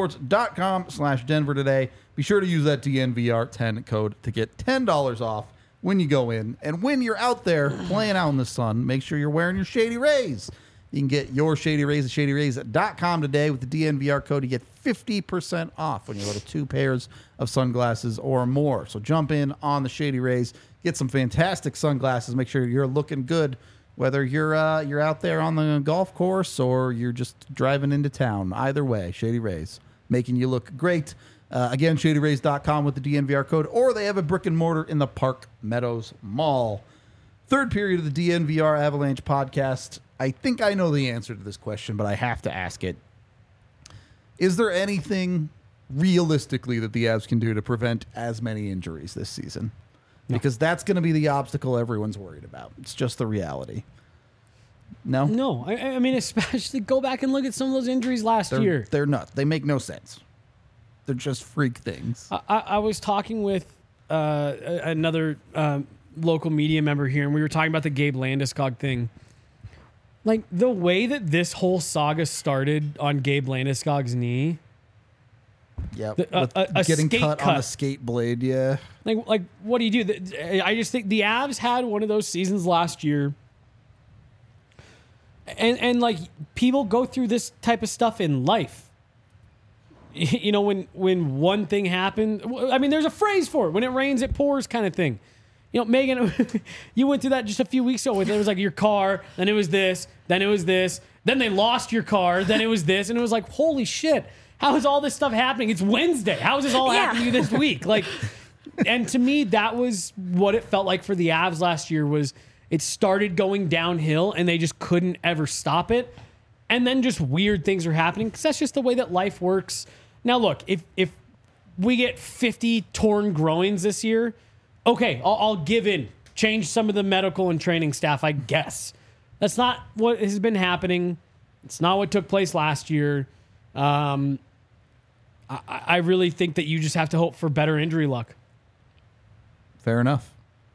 Volosports.com slash Denver today. Be sure to use that D N V R ten code to get ten dollars off when you go in. And when you're out there playing out in the sun, make sure you're wearing your Shady Rays. You can get your Shady Rays at shady rays dot com today with the D N V R code. You get fifty percent off when you order two pairs of sunglasses or more. So jump in on the Shady Rays, get some fantastic sunglasses. Make sure you're looking good, whether you're uh, you're out there on the golf course or you're just driving into town. Either way, Shady Rays, making you look great. Uh, again, shady rays dot com with the D N V R code, or they have a brick and mortar in the Park Meadows Mall. Third period of the D N V R Avalanche podcast. I think I know the answer to this question, but I have to ask it. Is there anything realistically that the Avs can do to prevent as many injuries this season? No. Because that's going to be the obstacle everyone's worried about. It's just the reality. No? No. I, I mean, especially go back and look at some of those injuries last they're, year. They're not. They make no sense. They're just freak things. I, I, I was talking with uh, another um, local media member here, and we were talking about the Gabe Landeskog thing. Like, the way that this whole saga started on Gabe Landeskog's knee. Yeah, uh, a, a getting skate cut, cut on a skate blade, yeah. Like, like, what do you do? The- I just think the Avs had one of those seasons last year. And, and like, people go through this type of stuff in life. You know, when, when one thing happened, I mean, there's a phrase for it. When it rains, it pours kind of thing. You know, Megan, you went through that just a few weeks ago with it was like your car, then it was this, then it was this, then they lost your car, then it was this, and it was like, holy shit, how is all this stuff happening? It's Wednesday. How is this all Yeah. happening to you this week? Like, and to me, that was what it felt like for the Avs last year was it started going downhill and they just couldn't ever stop it. And then just weird things are happening because that's just the way that life works. Now, look, if if we get fifty torn groins this year, okay, I'll, I'll give in. Change some of the medical and training staff, I guess. That's not what has been happening. It's not what took place last year. Um, I, I really think that you just have to hope for better injury luck. Fair enough.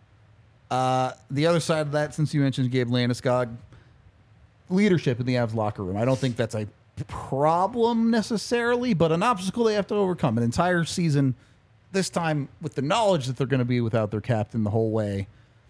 Uh, the other side of that, since you mentioned Gabe Landeskog, leadership in the Avs locker room. I don't think that's a problem necessarily, but an obstacle they have to overcome. An entire season, this time with the knowledge that they're going to be without their captain the whole way.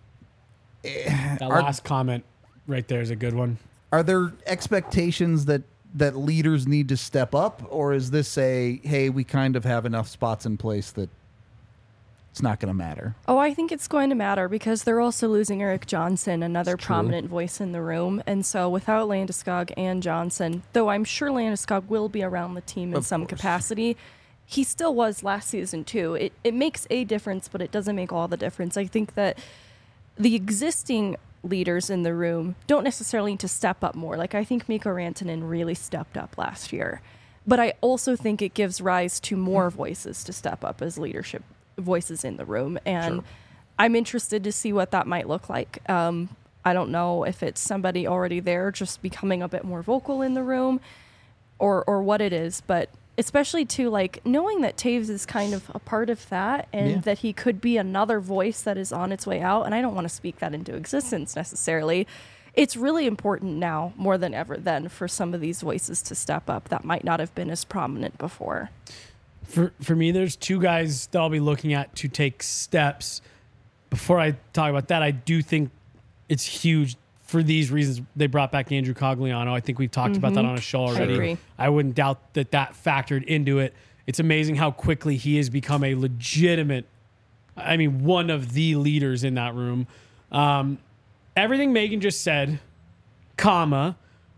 That Are, last comment right there is a good one. are there expectations that, that leaders need to step up, or is this a, hey, we kind of have enough spots in place that it's not going to matter? Oh, I think it's going to matter because they're also losing Eric Johnson, another It's true. prominent voice in the room. And so without Landeskog and Johnson, though I'm sure Landeskog will be around the team in Of some course. capacity, he still was last season too. It it makes a difference, but it doesn't make all the difference. I think that the existing leaders in the room don't necessarily need to step up more. Like, I think Mikko Rantanen really stepped up last year. But I also think it gives rise to more voices to step up as leadership voices in the room. And Sure. I'm interested to see what that might look like. Um, I don't know if it's somebody already there just becoming a bit more vocal in the room or or what it is, but especially to like knowing that Taves is kind of a part of that and Yeah. that he could be another voice that is on its way out. And I don't want to speak that into existence necessarily. It's really important now more than ever then for some of these voices to step up that might not have been as prominent before. For for me, there's two guys that I'll be looking at to take steps. Before I talk about that, I do think it's huge for these reasons. They brought back Andrew Cogliano. I think we've talked about that on a show already. agree. I wouldn't doubt that that factored into it. It's amazing how quickly he has become a legitimate, I mean, one of the leaders in that room. Um, everything Megan just said, comma,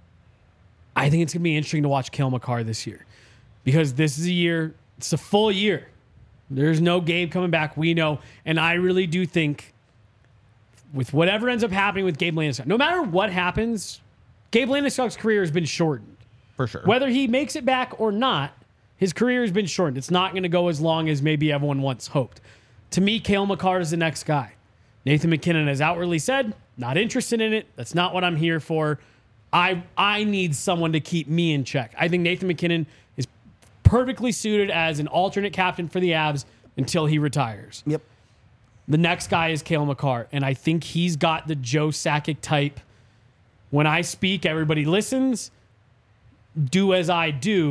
I think it's going to be interesting to watch Cale Makar this year because this is a year, it's a full year. There's no Gabe coming back, we know. And I really do think with whatever ends up happening with Gabe Landeskog, no matter what happens, Gabe Landeskog's career has been shortened. For sure. Whether he makes it back or not, his career has been shortened. It's not going to go as long as maybe everyone once hoped. To me, Cale Makar is the next guy. Nathan MacKinnon has outwardly said, not interested in it. That's not what I'm here for. I I need someone to keep me in check. I think Nathan MacKinnon is perfectly suited as an alternate captain for the Avs until he retires. Yep. The next guy is Cale Makar, and I think he's got the Joe Sakic type. When I speak, everybody listens. Do as I do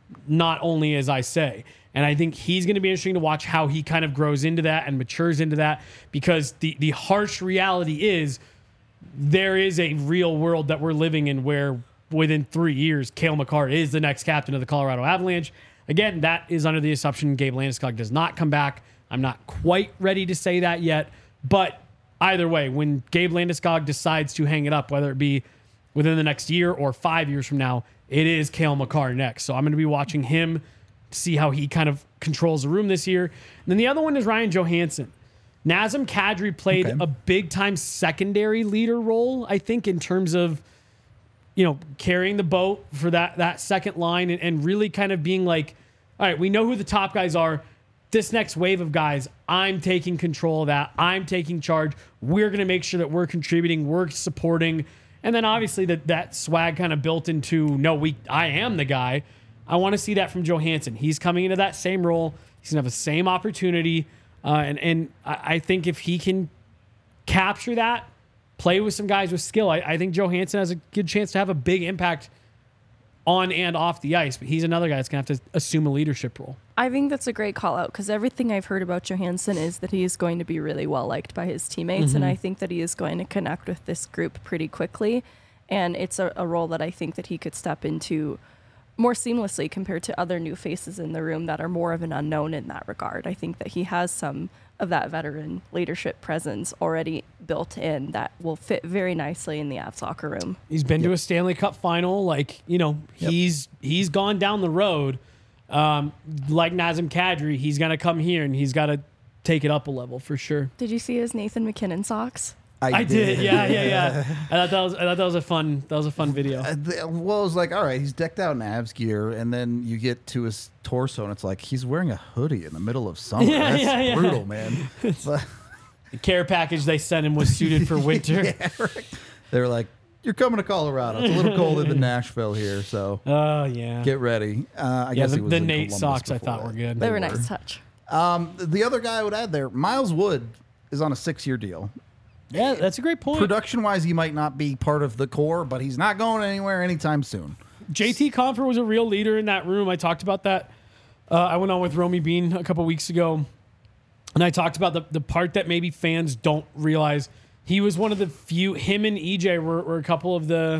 not only as I say. And I think he's going to be interesting to watch how he kind of grows into that and matures into that, because the, the harsh reality is there is a real world that we're living in where within three years, Cale Makar is the next captain of the Colorado Avalanche. Again, that is under the assumption Gabe Landeskog does not come back. I'm not quite ready to say that yet, but either way, when Gabe Landeskog decides to hang it up, whether it be within the next year or five years from now, it is Cale Makar next. So I'm going to be watching him, see how he kind of controls the room this year. And then the other one is Ryan Johansson. Nazem Kadri played Okay. a big-time secondary leader role, I think, in terms of, you know, carrying the boat for that that second line and, and really kind of being like, all right, we know who the top guys are. This next wave of guys, I'm taking control of that. I'm taking charge. We're going to make sure that we're contributing, we're supporting. And then obviously that, that swag kind of built into, no, we I am the guy. I want to see that from Johansson. He's coming into that same role. He's going to have the same opportunity. Uh, and and I, I think if he can capture that, play with some guys with skill, I, I think Johansson has a good chance to have a big impact on and off the ice. But he's another guy that's going to have to assume a leadership role. I think that's a great call out, because everything I've heard about Johansson is that he is going to be really well liked by his teammates. Mm-hmm. And I think that he is going to connect with this group pretty quickly. And it's a, a role that I think that he could step into more seamlessly compared to other new faces in the room that are more of an unknown in that regard. I think that he has some of that veteran leadership presence already built in that will fit very nicely in the Avs locker room. He's been to a Stanley Cup final. Like, you know, Yep. he's he's gone down the road. Um, like Nazem Kadri, he's going to come here and he's got to take it up a level for sure. Did you see his Nathan McKinnon socks? I did, yeah, yeah, yeah. I thought that was I thought that was a fun that was a fun video. Uh, the- well, it was like, all right, he's decked out in Avs gear, and then you get to his torso, and it's like he's wearing a hoodie in the middle of summer. Yeah, That's yeah, yeah. brutal, man. But The care package they sent him was suited for winter. yeah, right. They were like, you're coming to Colorado. It's a little colder than Nashville here, so Oh yeah. get ready. Uh, I yeah, guess the, he was the in Nate Columbus socks I before thought that. were good. They were were. nice touch. Um, the other guy I would add there, Miles Wood, is on a six-year deal. Yeah, that's a great point. Production-wise, he might not be part of the core, but he's not going anywhere anytime soon. J T Compher was a real leader in that room. I talked about that. Uh, I went on with Romy Bean a couple weeks ago, and I talked about the, the part that maybe fans don't realize. He was one of the few, him and E J were, were a couple of the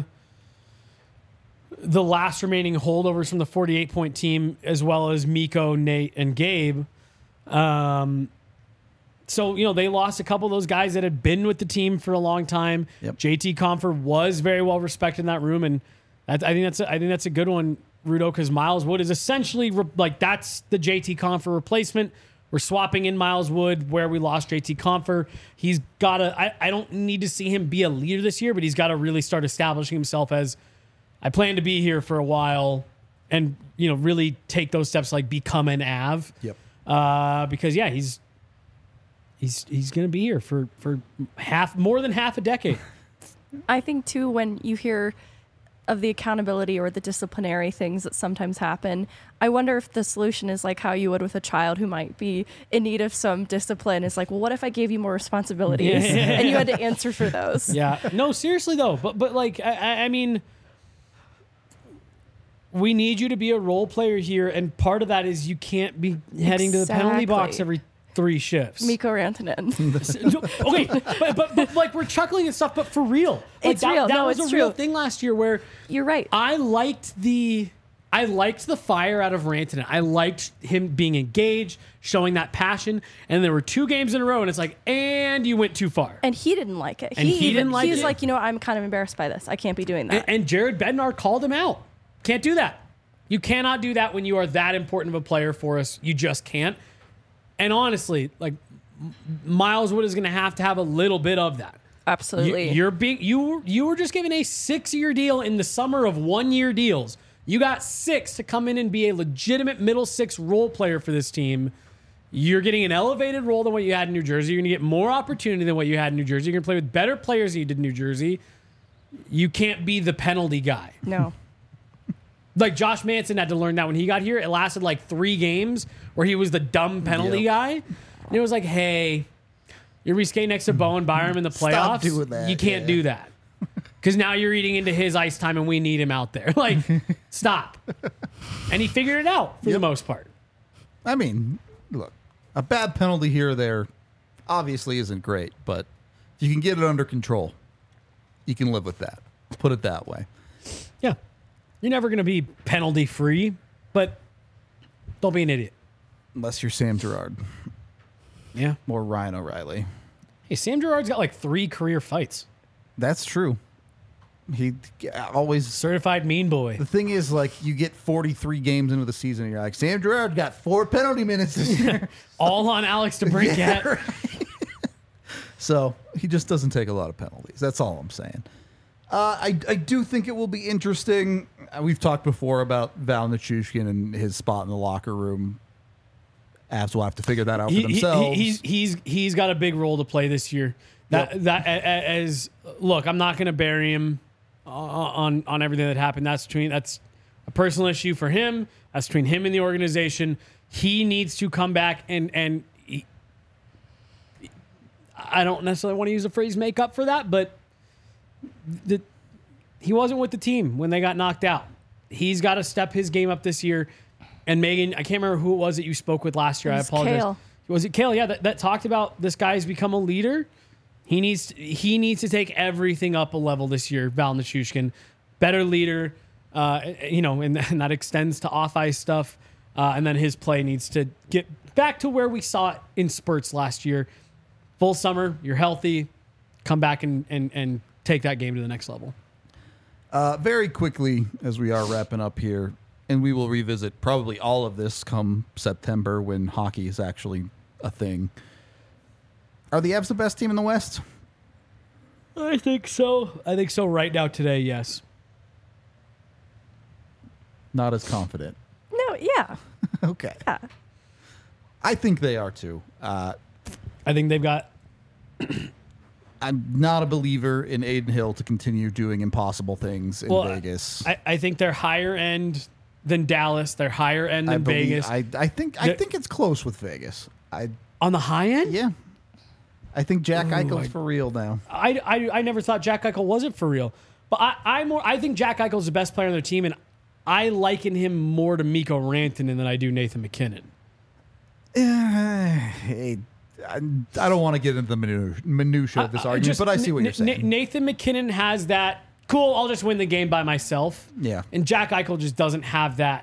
the last remaining holdovers from the forty-eight point team, as well as Mikko, Nate, and Gabe. Um, so, you know, they lost a couple of those guys that had been with the team for a long time. Yep. J T Compher was very well respected in that room, and that, I think that's a, I think that's a good one, Rudo, because Miles Wood is essentially re- like that's the J T Compher replacement. We're swapping in Miles Wood where we lost J T Compher. He's got to, I, I don't need to see him be a leader this year, but he's got to really start establishing himself as, I plan to be here for a while and, you know, really take those steps, like become an Av. Yep. Uh, because, yeah, he's he's he's going to be here for, for half, more than half a decade. I think, too, when you hear of the accountability or the disciplinary things that sometimes happen, I wonder if the solution is like how you would with a child who might be in need of some discipline. Is like, well, what if I gave you more responsibilities Yeah. and you had to answer for those? Yeah. No, seriously, though. But, but like, I- I, I mean, we need you to be a role player here. And part of that is you can't be heading to the penalty box Exactly. every three shifts. Mikko Rantanen. okay, but, but but like we're chuckling and stuff, but for real, like It's that, real. That No, was it's a real true. thing last year where You're right. I liked the I liked the fire out of Rantanen. I liked him being engaged, showing that passion. And there were two games in a row, and it's like, and you went too far. And he didn't like it. And he even, didn't like he was it? like, you know, I'm kind of embarrassed by this. I can't be doing that. And, and Jared Bednar called him out. Can't do that. You cannot do that when you are that important of a player for us. You just can't. And honestly, like M- Miles Wood is going to have to have a little bit of that. Absolutely. You, you're being you were- you were just given a six year deal in the summer of one year deals. You got six to come in and be a legitimate middle six role player for this team. You're getting an elevated role than what you had in New Jersey. You're going to get more opportunity than what you had in New Jersey. You're going to play with better players than you did in New Jersey. You can't be the penalty guy. no. Like Josh Manson had to learn that when he got here. It lasted like three games where he was the dumb penalty Yep. guy. And it was like, hey, you're reskating next to Bowen Byram in the playoffs. Stop doing that, You can't yeah. do that. because now you're eating into his ice time and we need him out there. Like, stop. And he figured it out for Yep. the most part. I mean, look, a bad penalty here or there obviously isn't great, but if you can get it under control, you can live with that. Put it that way. Yeah. You're never going to be penalty free, but don't be an idiot. Unless you're Sam Girard Yeah. or Ryan O'Reilly. Hey, Sam Girard's got like three career fights. That's true. He always. Certified mean boy. The thing is, like, you get forty-three games into the season, and you're like, Sam Girard got four penalty minutes this year. All on Alex DeBrincat. Yeah, right. So he just doesn't take a lot of penalties. That's all I'm saying. Uh, I, I do think it will be interesting. Uh, We've talked before about Val Nichushkin and his spot in the locker room. Avs will have to figure that out He- for he- themselves. he's he's he's got a big role to play this year. That Yep. that a- a- as look, I'm not going to bury him uh, on on everything that happened. That's between that's a personal issue for him. That's between him and the organization. He needs to come back and and he, I don't necessarily want to use the phrase make up for that, but the, he wasn't with the team when they got knocked out. He's got to step his game up this year. And Megan, I can't remember who it was that you spoke with last year. It I was apologize. Kale. Was it Kale? Yeah, that, that talked about this guy's become a leader. He needs he needs to take everything up a level this year. Val Nichushkin, better leader, uh, you know, and, and that extends to off ice stuff. Uh, and then his play needs to get back to where we saw it in spurts last year. Full summer, you're healthy, come back and and and take that game to the next level. Uh, very quickly, as we are wrapping up here, and we will revisit probably all of this come September when hockey is actually a thing. Are the Avs the best team in the West? I think so. I think so right now today, yes. Not as confident. No, yeah. Okay. Yeah. I think they are too. Uh, I think they've got I'm not a believer in Aiden Hill to continue doing impossible things in well, Vegas. I, I think they're higher end than Dallas. They're higher end I than believe- Vegas. I, I think I The- think it's close with Vegas. I On the high end? yeah. I think Jack Ooh, Eichel's I- for real now. I, I, I never thought Jack Eichel wasn't for real. But I, I more I think Jack Eichel's the best player on their team, and I liken him more to Mikko Rantanen than I do Nathan McKinnon. Hey, I, I don't want to get into the minu- minutia of this Uh, argument, just but I see what N- you're saying. N- Nathan McKinnon has that, cool, I'll just win the game by myself. Yeah. And Jack Eichel just doesn't have that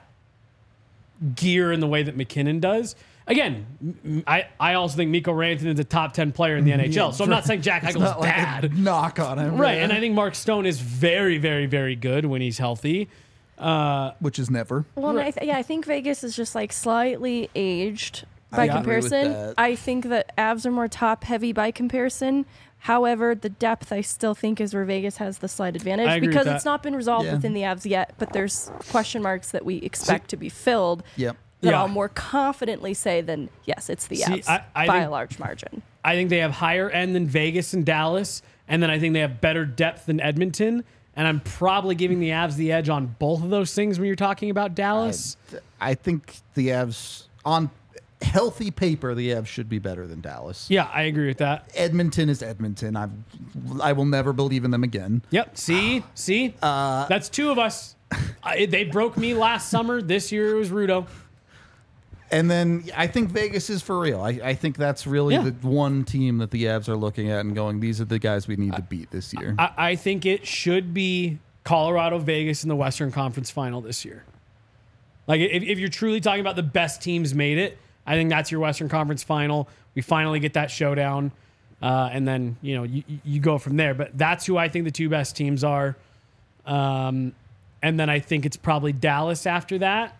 gear in the way that McKinnon does. Again, m- I, I also think Mikko Rantanen's a top ten player in the N H L, so I'm not saying Jack It's Eichel's not like a bad. knock on him, Right, and I think Mark Stone is very, very, very good when he's healthy. which is never. Well, and I th- yeah, I think Vegas is just like slightly aged I by agree with comparison. that. I think that Avs are more top heavy by comparison. However, the depth I still think is where Vegas has the slight advantage I agree with because that. it's not been resolved Yeah. within the Avs yet, but there's question marks that we expect to be filled Yep. that Yeah. I'll more confidently say than yes, it's the See, Avs I- I by think- a large margin. I think they have higher end than Vegas and Dallas, and then I think they have better depth than Edmonton. And I'm probably giving the Avs the edge on both of those things when you're talking about Dallas. I think the Avs, on healthy paper, the Avs should be better than Dallas. Yeah, I agree with that. Edmonton is Edmonton. I I will never believe in them again. Yep. See, see, Uh, that's two of us. I, they broke me last summer. This year it was Rudo. And then I think Vegas is for real. I, I think that's really Yeah. the one team that the Avs are looking at and going, these are the guys we need to beat this year. I, I think it should be Colorado, Vegas in the Western Conference Final this year. Like, if, if you're truly talking about the best teams made it, I think that's your Western Conference Final. We finally get that showdown, uh, and then you know you, you go from there. But that's who I think the two best teams are. Um, and then I think it's probably Dallas after that.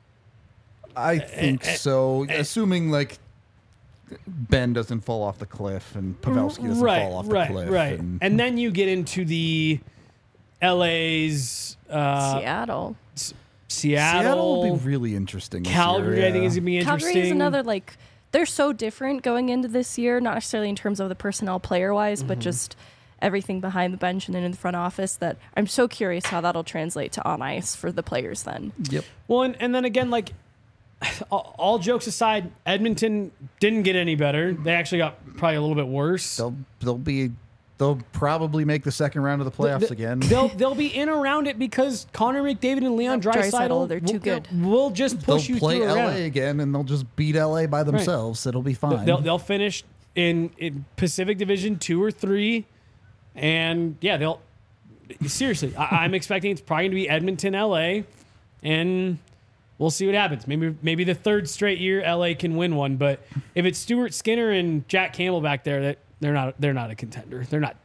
I think so. Assuming like Ben doesn't fall off the cliff and Pavelski doesn't right, fall off the right, cliff. right. And, And then you get into the L A's, uh, Seattle. Seattle, Seattle will be really interesting. this Calgary. year, I think yeah. is gonna be interesting. Calgary is another like they're so different going into this year, not necessarily in terms of the personnel player wise, Mm-hmm. but just everything behind the bench and then in the front office that I'm so curious how that'll translate to on ice for the players then. Yep. Well, and, and then again, like all, all jokes aside, Edmonton didn't get any better. They actually got probably a little bit worse. They'll they'll be they'll probably make the second round of the playoffs The- again. They'll they'll be in around it because Connor McDavid and Leon Yep, Draisaitl, Draisaitl, they're too will- good. Will just They'll push you play through a L A round. again, and they'll just beat L A by themselves. It'll be fine. They'll they'll finish in, in Pacific Division two or three, and yeah, they'll seriously. I, I'm expecting it's probably going to be Edmonton, L A, and we'll see what happens. Maybe maybe the third straight year L A can win one, but if it's Stuart Skinner and Jack Campbell back there, that they're not they're not a contender. They're not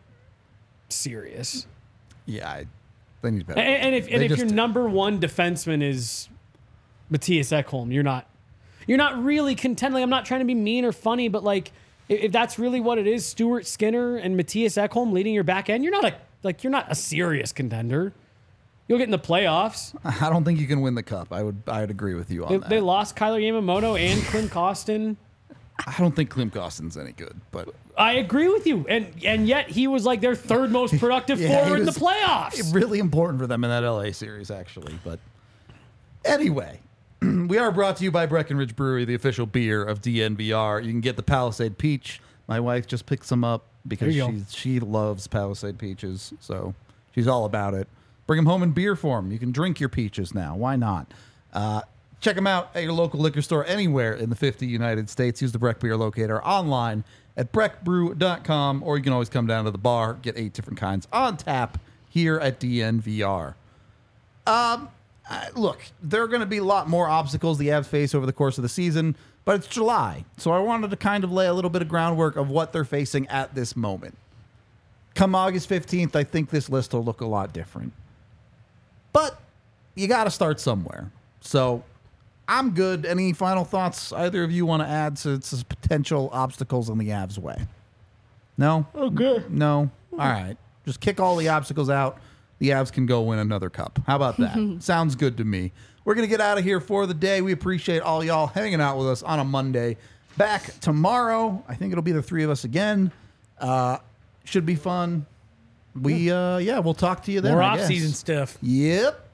serious. yeah, I, they need better. And, and if and They if just your do. number one defenseman is Matthias Ekholm, you're not you're not really contending. I'm not trying to be mean or funny, but like if, if that's really what it is, Stuart Skinner and Matthias Ekholm leading your back end, you're not a like you're not a serious contender. You'll get in the playoffs. I don't think you can win the cup. I would I would agree with you on They, that. they lost Kyler Yamamoto and Klim Kostin. I don't think Klim Kostin's any good, but I agree with you, and and yet he was like their third most productive Yeah, he forward in the was playoffs. really important for them in that L A series, actually. But anyway, we are brought to you by Breckenridge Brewery, the official beer of D N V R. You can get the Palisade Peach. My wife just picked some up because There you she she loves Palisade peaches, so she's all about it. Bring them home in beer form. You can drink your peaches now. Why not? Uh, check them out at your local liquor store anywhere in the fifty United States. Use the Breck Beer Locator online at breck brew dot com, or you can always come down to the bar, get eight different kinds on tap here at D N V R. Um, uh, look, there are going to be a lot more obstacles the Avs face over the course of the season, but it's July, so I wanted to kind of lay a little bit of groundwork of what they're facing at this moment. Come August fifteenth, I think this list will look a lot different. But you got to start somewhere. So I'm good. Any final thoughts either of you want to add to, to potential obstacles in the Avs' way? No? Okay. No? All right. Just kick all the obstacles out. The Avs can go win another cup. How about that? Sounds good to me. We're going to get out of here for the day. We appreciate all y'all hanging out with us on a Monday. Back tomorrow. I think it'll be the three of us again. Uh, should be fun. We, uh, yeah, we'll talk to you then. More I off guess. season stuff. Yep.